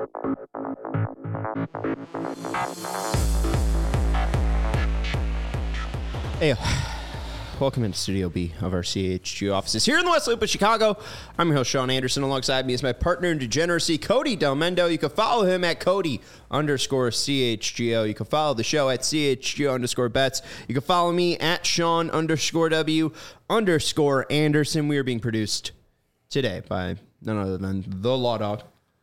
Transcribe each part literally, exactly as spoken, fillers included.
Hey, welcome into Studio B of our C H G O offices here in the West Loop of Chicago. I'm your host, Sean Anderson. Alongside me is my partner in degeneracy, Cody Delmendo. You can follow him at Cody underscore C H G O. You can follow the show at C H G O underscore bets. You can follow me at Sean underscore W underscore Anderson. We are being produced today by none other than the Law Dog.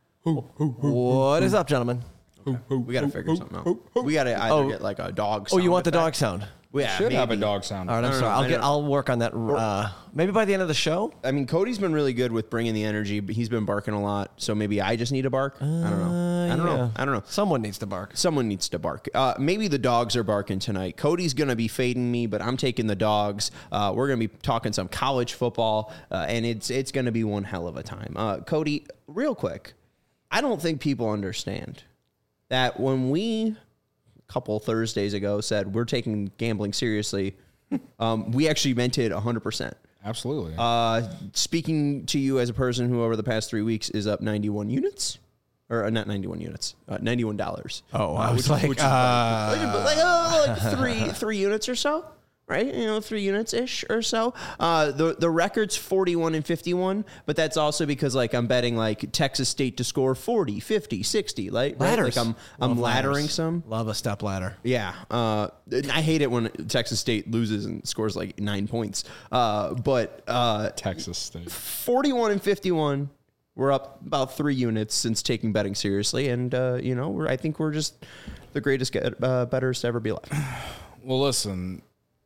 What is up, gentlemen? We got to figure something out. We got to either Oh. get like a dog Oh, sound you want the effect. dog sound? Yeah, Should have a maybe. dog sound. All right, I'm don't sorry. know. I'll I get. don't- I'll work on that. Uh, maybe by the end of the show. I mean, Cody's been really good with bringing the energy, but he's been barking a lot. So maybe I just need to bark. I don't know. I don't yeah. know. I don't know. Someone needs to bark. Someone needs to bark. Uh, maybe the dogs are barking tonight. Cody's going to be fading me, but I'm taking the dogs. Uh, we're going to be talking some college football, uh, and it's it's going to be one hell of a time. Uh, Cody, real quick, I don't think people understand that when we, a couple Thursdays ago, said we're taking gambling seriously, um, we actually meant it one hundred percent. Absolutely. Uh, speaking to you as a person who over the past three weeks is up ninety-one units, or uh, not ninety-one units, uh, ninety-one dollars. Oh, uh, I was which, like, which is uh, like, like, like, uh, like three three units or so, right? You know, three units ish or so. Uh, the the record's forty-one and fifty-one, but that's also because like I'm betting like Texas State to score forty, fifty, sixty, like right? Ladders. Like I'm I'm Love laddering ladders. some. Love a step ladder. Yeah, uh, I hate it when Texas State loses and scores like nine points. Uh, but uh, Texas State. forty-one and fifty-one. We're up about three units since taking betting seriously, and uh, you know, we're, I think we're just the greatest get, uh, bettors to ever be alive. Well, listen,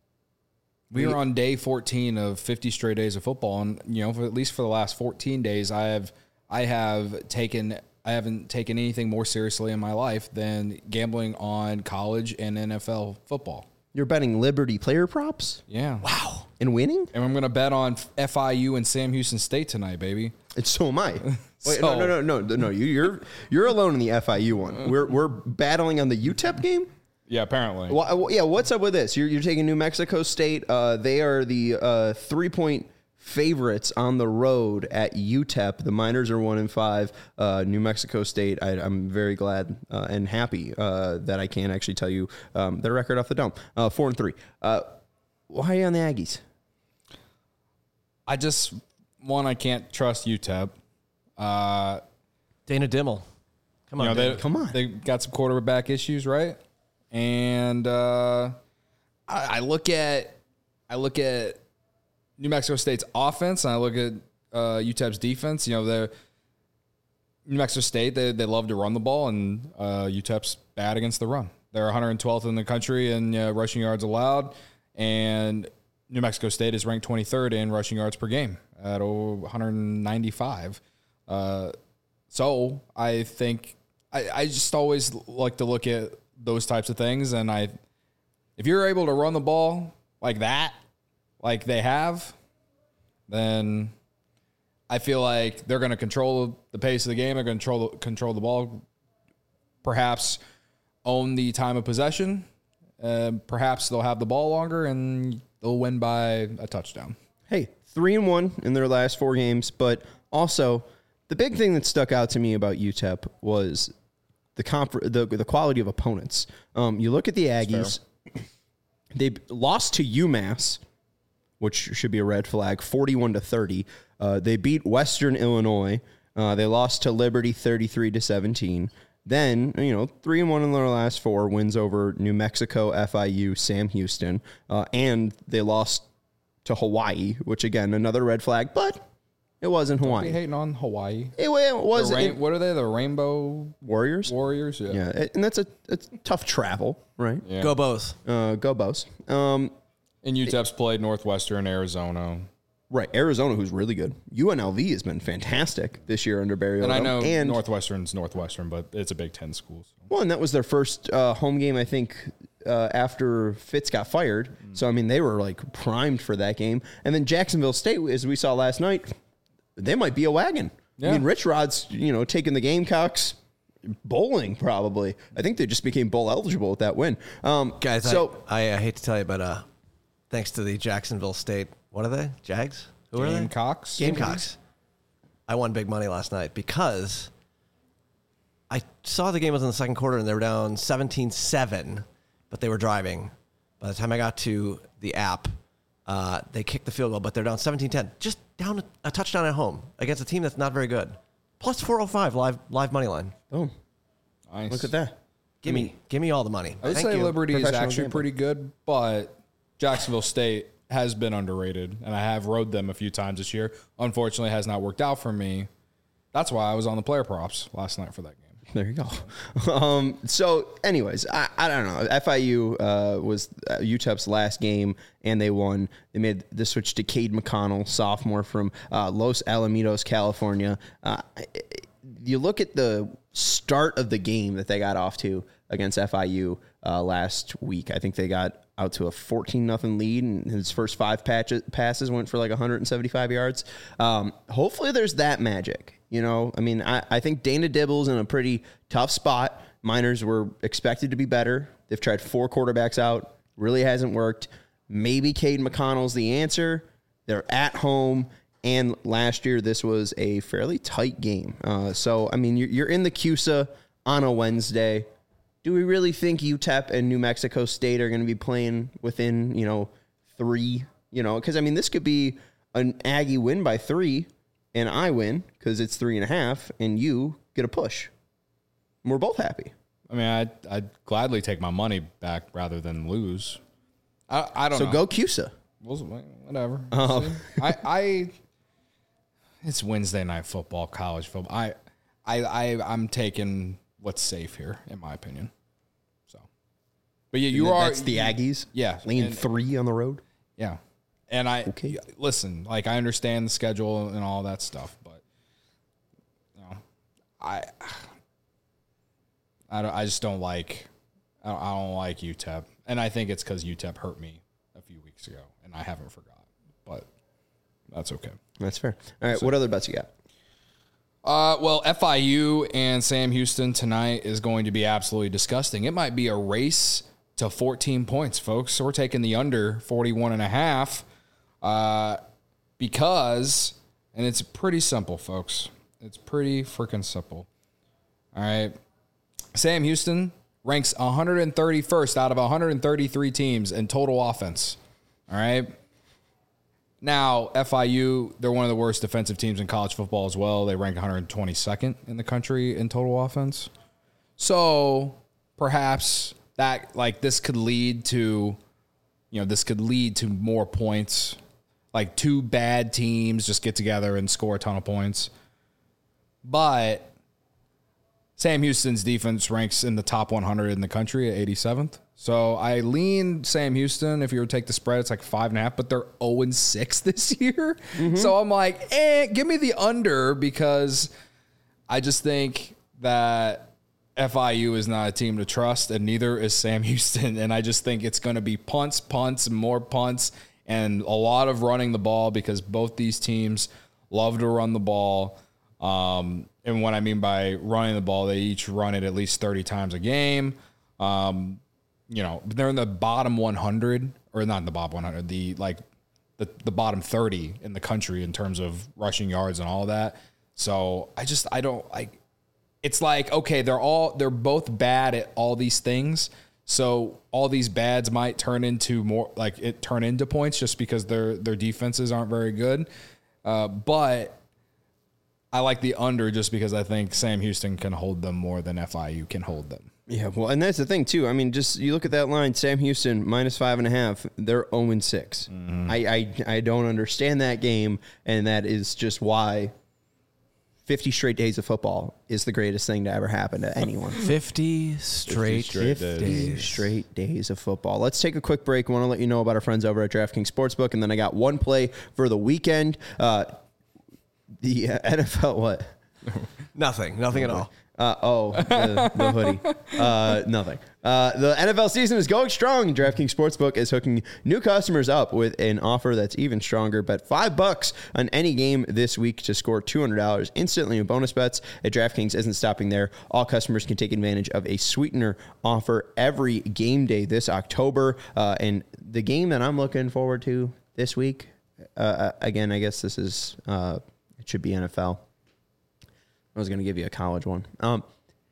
we are on day fourteen of fifty straight days of football, and you know, for at least for the last fourteen days, I have, I have taken, I haven't taken anything more seriously in my life than gambling on college and N F L football. You're betting Liberty player props Yeah. Wow. and winning, And I'm gonna bet on F I U and Sam Houston State tonight, baby. and so am I. Wait, So- no, no, no, no, no. You, you're you're alone in the F I U one. We're we're battling on the U T E P game. Yeah, apparently. Well, yeah, what's up with this? You're, you're taking New Mexico State. Uh, they are the uh, three-point favorites on the road at U T E P. The Miners are one and five. Uh, New Mexico State. I, I'm very glad uh, and happy uh, that I can actually tell you um, their record off the dome. Uh, four and three. Uh, why are you on the Aggies? I just one, I can't trust U T E P. Uh, Dana Dimmel. Come you on, know, Dana. they, Come on. They got some quarterback issues, right? And uh, I, I look at I look at New Mexico State's offense, and I look at uh, U T E P's defense. You know, they're New Mexico State. They they love to run the ball, and uh, U T E P's bad against the run. They're one hundred twelfth in the country in uh, rushing yards allowed, and New Mexico State is ranked twenty-third in rushing yards per game at one hundred ninety-five. Uh, so I think I, I just always like to look at those types of things, and I, if you're able to run the ball like that, like they have, then I feel like they're going to control the pace of the game. They're going to control control the ball, perhaps own the time of possession. Uh, perhaps they'll have the ball longer and they'll win by a touchdown. Hey, three and one in their last four games, but also the big thing that stuck out to me about U T E P was the comp- the the quality of opponents. Um, you look at the Aggies; they lost to UMass, which should be a red flag, forty-one to thirty. Uh, they beat Western Illinois. Uh, they lost to Liberty, thirty-three to seventeen. Then, you know, three and one in their last four, wins over New Mexico, F I U, Sam Houston, uh, and they lost to Hawaii, which again another red flag, but it wasn't Be Hawaii. hating on Hawaii. It, it was The rain, it- what are they? The Rainbow Warriors. Warriors? Yeah. Yeah, and that's a it's tough travel, right? Yeah. Go Bows. Uh, go Bows. Um, And U T E P's played Northwestern, Arizona. right, Arizona, who's really good. U N L V has been fantastic this year under Barry And Odom. I know and Northwestern's Northwestern, but it's a Big Ten school. So. well, and that was their first uh, home game, I think, uh, after Fitz got fired. Mm. So I mean, they were like primed for that game. And then Jacksonville State, as we saw last night, they might be a wagon. Yeah. I mean, Rich Rod's, you know, taking the Gamecocks bowling probably. I think they just became bowl eligible with that win. Um, Guys, so I, I, I hate to tell you, but uh, thanks to the Jacksonville State, what are they? Jags? Who are they? Gamecocks. Gamecocks. I won big money last night because I saw the game was in the second quarter and they were down seventeen seven, but they were driving. By the time I got to the app, uh, they kicked the field goal, but they're down seventeen ten. Just down a, a touchdown at home against a team that's not very good. Plus four oh five live live money line. Boom. Nice. Look at that. Give me, give me all the money. I would Thank say you. Liberty is Professional actually gambling. pretty good, but Jacksonville State has been underrated, and I have rode them a few times this year. Unfortunately, it has not worked out for me. That's why I was on the player props last night for that game. There you go. Um, so, anyways, I, I don't know. F I U uh, was uh, U T E P's last game, and they won. They made the switch to Cade McConnell, sophomore from uh, Los Alamitos, California. Uh, you look at the start of the game that they got off to against F I U uh, last week. I think they got out to a fourteen nothing lead, and his first five patches, passes went for like one hundred seventy-five yards. Um, hopefully there's that magic. You know, I mean, I, I think Dana Dibble's in a pretty tough spot. Miners were expected to be better. They've tried four quarterbacks out. Really hasn't worked. Maybe Cade McConnell's the answer. They're at home. And last year, this was a fairly tight game. Uh, so, I mean, you're, you're in the C U S A on a Wednesday. Do we really think U T E P and New Mexico State are going to be playing within, you know, three? You know, because, I mean, this could be an Aggie win by three, and I win because it's three and a half, and you get a push. And we're both happy. I mean, I'd, I'd gladly take my money back rather than lose. I, I don't So know. go C U S A. We'll, whatever. Oh. I, I, it's Wednesday night football, college football. I, I, I, I'm taking what's safe here, in my opinion. So, but yeah, you And are. That's the Aggies. Yeah, Laying and- three on the road. Yeah. And I Okay. listen, like I understand the schedule and all that stuff, but you know, I I don't I just don't like I don't, I don't like U T E P. And I think it's cuz U T E P hurt me a few weeks ago and I haven't forgot. But that's okay. That's fair. All right, what other bets you got? Uh, well, F I U and Sam Houston tonight is going to be absolutely disgusting. It might be a race to fourteen points, folks. So we're taking the under forty-one and a half. Uh, because, and it's pretty simple, folks. It's pretty freaking simple. All right. Sam Houston ranks one hundred thirty-first out of one hundred thirty-three teams in total offense. All right. Now, F I U, they're one of the worst defensive teams in college football as well. They rank one hundred twenty-second in the country in total offense. So perhaps that, like, this could lead to, you know, this could lead to more points. Like two bad teams just get together and score a ton of points. But Sam Houston's defense ranks in the top one hundred in the country at eighty-seventh. So I lean Sam Houston. If you were to take the spread, it's like five and a half, but they're oh and six this year. Mm-hmm. So I'm like, eh, give me the under because I just think that F I U is not a team to trust, and neither is Sam Houston. And I just think it's going to be punts, punts, and more punts, and a lot of running the ball because both these teams love to run the ball. Um, and what I mean by running the ball, they each run it at least thirty times a game. Um, you know, they're in the bottom one hundred, or not in the bottom one hundred, the like the, the bottom thirty in the country in terms of rushing yards and all that. So I just, I don't like, it's like, okay, they're all, they're both bad at all these things. So all these bads might turn into more like it turn into points just because their, their defenses aren't very good. Uh, but I like the under just because I think Sam Houston can hold them more than F I U can hold them. Yeah, well, and that's the thing, too. I mean, just you look at that line, Sam Houston, minus five and a half. They're oh and six. Mm-hmm. I, I, I don't understand that game, and that is just why fifty straight days of football is the greatest thing to ever happen to anyone. fifty straight, straight fifty days. straight days of football. Let's take a quick break. I want to let you know about our friends over at DraftKings Sportsbook, and then I got one play for the weekend. Uh, the uh, N F L, what? Nothing. Nothing at all. Uh, oh, the, the hoodie. Uh, nothing. Uh, the N F L season is going strong. DraftKings Sportsbook is hooking new customers up with an offer that's even stronger. Bet five bucks on any game this week to score two hundred dollars instantly in bonus bets. At DraftKings isn't stopping there. All customers can take advantage of a sweetener offer every game day this October. Uh, and the game that I'm looking forward to this week, uh, again, I guess this is, uh, it should be N F L. I was going to give you a college one. Um,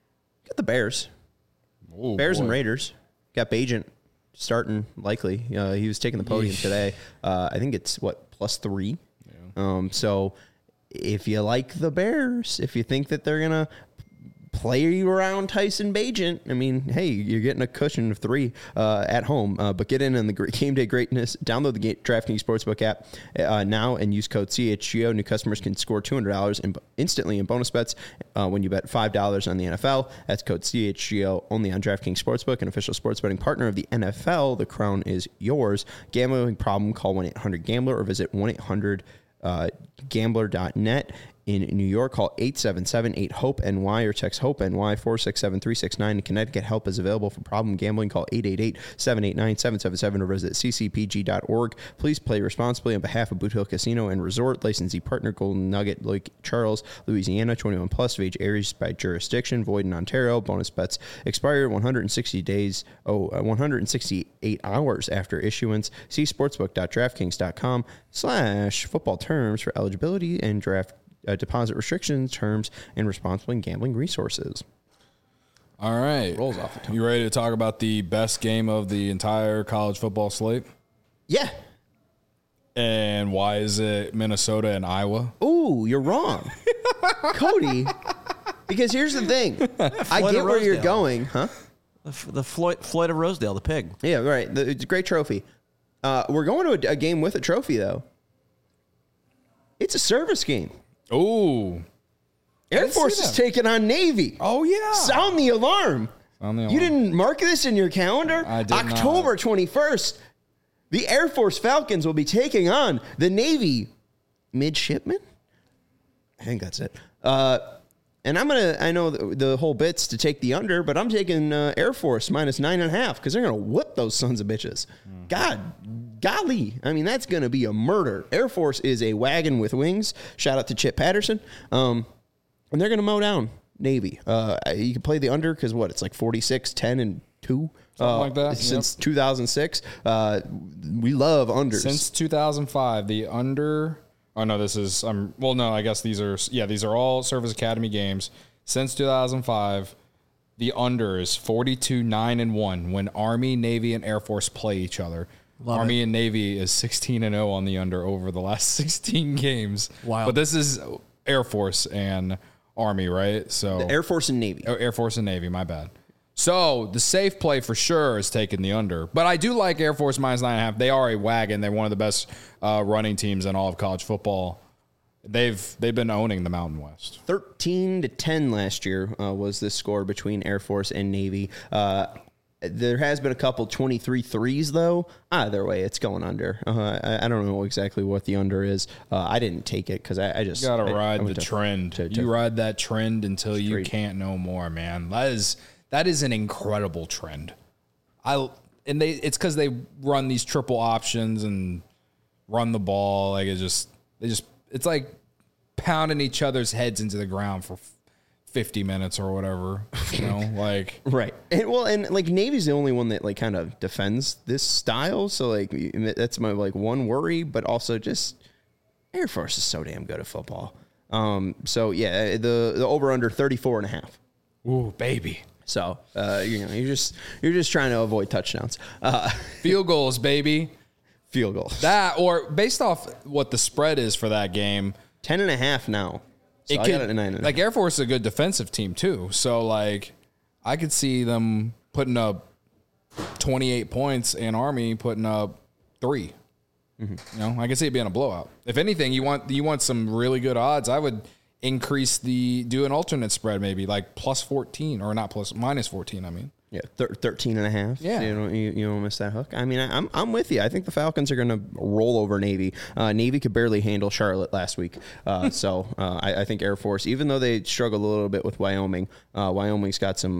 Got the Bears. Ooh, Bears boy. and Raiders. Got Bajent starting likely. Uh, he was taking the podium Yeesh. today. Uh, I think it's, what, plus three? Yeah. Um, so if you like the Bears, if you think that they're going to play around Tyson Bajent, I mean, hey, you're getting a cushion of three uh, at home. Uh, but get in on the game day greatness. Download the DraftKings Sportsbook app uh, now and use code C H G O. New customers can score two hundred dollars in, instantly in bonus bets uh, when you bet five dollars on the N F L. That's code C H G O only on DraftKings Sportsbook, an official sports betting partner of the N F L. The crown is yours. Gambling problem? Call one eight hundred gambler or visit one eight hundred gambler dot net. In New York, call eight seven seven eight hope N Y or text HOPE-NY four six seven three six nine. In Connecticut, help is available for problem gambling. Call eight eight eight seven eight nine seven seven seven or visit c c p g dot org. Please play responsibly on behalf of Boot Hill Casino and Resort. Licensee partner, Golden Nugget, Lake Charles, Louisiana. twenty-one plus of age, areas by jurisdiction. Void in Ontario. Bonus bets expire one hundred sixty days, oh, uh, one hundred sixty-eight hours after issuance. See sportsbook dot draftkings dot com slash football terms for eligibility and draft Uh, deposit restrictions, terms, and responsible gambling resources. All right. Rolls off the tongue. You ready to talk about the best game of the entire college football slate? Yeah. And why is it Minnesota and Iowa? Ooh, you're wrong. Cody, because here's the thing. I Floyd get of where you're Rosedale. going, huh? The, F- the Floyd, Floyd of Rosedale, the pig. Yeah, right. The, it's a great trophy. Uh, we're going to a, a game with a trophy, though. It's a service game. Ooh. Air didn't see Force is that. taking on Navy. Oh, yeah. Sound the alarm. Sound the You alarm. didn't mark this in your calendar? I did not. October twenty-first, the Air Force Falcons will be taking on the Navy midshipmen. I think that's it. Uh, and I'm going to, I know the, the whole bit's to take the under, but I'm taking uh, Air Force minus nine and a half because they're going to whip those sons of bitches. Mm. God, golly. I mean, that's going to be a murder. Air Force is a wagon with wings. Shout out to Chip Patterson. Um, and they're going to mow down Navy. Uh, you can play the under because what? It's like forty-six, ten, and two. Something uh, like that, Since two thousand six. Uh, we love unders. Since two thousand five, the under. Oh no, this is. Um. Well, no, I guess these are. Yeah, these are all Service Academy games. Since two thousand five, the under is forty-two nine and one when Army, Navy, and Air Force play each other. Love Army it. and Navy is sixteen and zero on the under over the last sixteen games. Wow. But this is Air Force and Army, right? So Air Force and Navy. Oh, Air Force and Navy, my bad. So the safe play for sure is taking the under. But I do like Air Force minus nine and a half. They are a wagon. They're one of the best uh, running teams in all of college football. They've they've been owning the Mountain West. thirteen to ten last year uh, was the score between Air Force and Navy. Uh, there has been a couple twenty-three threes, though. Either way, it's going under. Uh, I, I don't know exactly what the under is. Uh, I didn't take it because I, I just... You got to I- ride I went the to- trend. to- to- you ride that trend until you Straight. can't no more, man. That is that is an incredible trend. I and they it's because they run these triple options and run the ball. Like it just they just it's like pounding each other's heads into the ground for fifty minutes or whatever. You know, like Right. And, well, and like Navy's the only one that like kind of defends this style. So like that's my like one worry, but also just Air Force is so damn good at football. Um, so yeah, the the over under thirty-four and a half. ooh baby. So uh, you know, you're just you're just trying to avoid touchdowns. Uh, Field goals, baby. field goal. That or based off what the spread is for that game. Ten and a half now. So It I could, got it at nine and a like Air Force is a good defensive team too. So like I could see them putting up twenty-eight points and Army putting up three. Mm-hmm. You know, I could see it being a blowout. If anything, you want you want some really good odds. I would increase the do an alternate spread maybe like plus fourteen or not plus minus fourteen. I mean. Yeah, thir- thirteen and a half. Yeah. You don't, you, you don't miss that hook. I mean, I, I'm I'm with you. I think the Falcons are going to roll over Navy. Uh, Navy could barely handle Charlotte last week. Uh, so uh, I, I think Air Force, even though they struggled a little bit with Wyoming, uh, Wyoming's got some,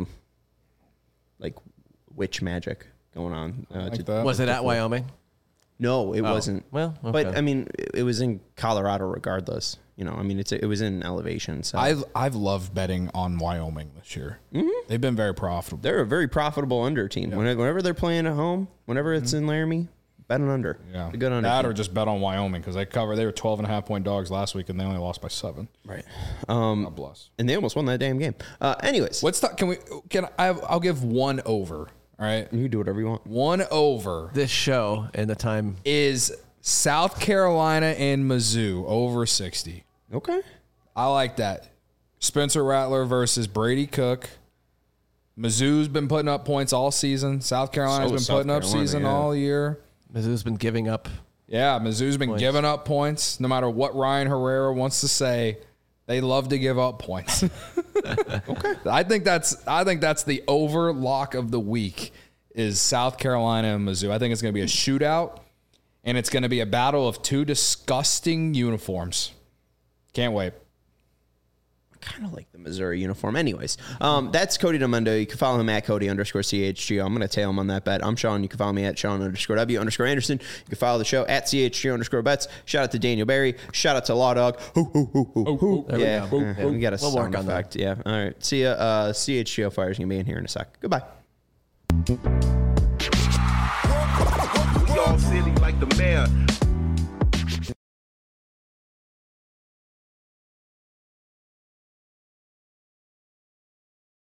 like, witch magic going on. Uh, Like to- that. Was it at Wyoming? No, it wasn't. well, But, okay. I mean, it, it was in Colorado regardless. You know, I mean, it's it was in elevation. So I've I've loved betting on Wyoming this year. Mm-hmm. They've been very profitable. they're a very profitable under team. Whenever, whenever they're playing at home, whenever it's Mm-hmm. in Laramie, Bet an under. Yeah. A good under. That or just bet on Wyoming because they cover. They were twelve and a half point dogs last week and they only lost by seven. Right. Um, God bless. And they almost won that damn game. Uh, anyways. Let's talk. Can we? Can I? I'll give one over. All right. You can do whatever you want. One over. This show and the time is South Carolina and Mizzou over sixty. Okay. I like that. Spencer Rattler versus Brady Cook. Mizzou's been putting up points all season. South Carolina's So been South putting up Carolina, season yeah. all year. Mizzou's been giving up. Yeah, Mizzou's been Points. giving up points. No matter what Ryan Herrera wants to say, they love to give up points. Okay. I think that's I think that's the over lock of the week is South Carolina and Mizzou. I think it's going to be a shootout, and it's going to be a battle of two disgusting uniforms. Can't wait. Kind of like the Missouri uniform. Anyways, um, that's Cody Demundo. You can follow him at Cody underscore C H G O. I'm going to tail him on that bet. I'm Sean. You can follow me at Sean underscore W underscore Anderson. You can follow the show at C H G O underscore bets. Shout out to Daniel Barry. Shout out to Law Dog. Hoo, hoo, hoo, hoo, hoo. There we Yeah, go. uh, yeah, we got a We'll sound work on effect. Yeah. All right. See ya. Uh, C H G O Fire's going to be in here in a sec. Goodbye. We all silly like the mayor.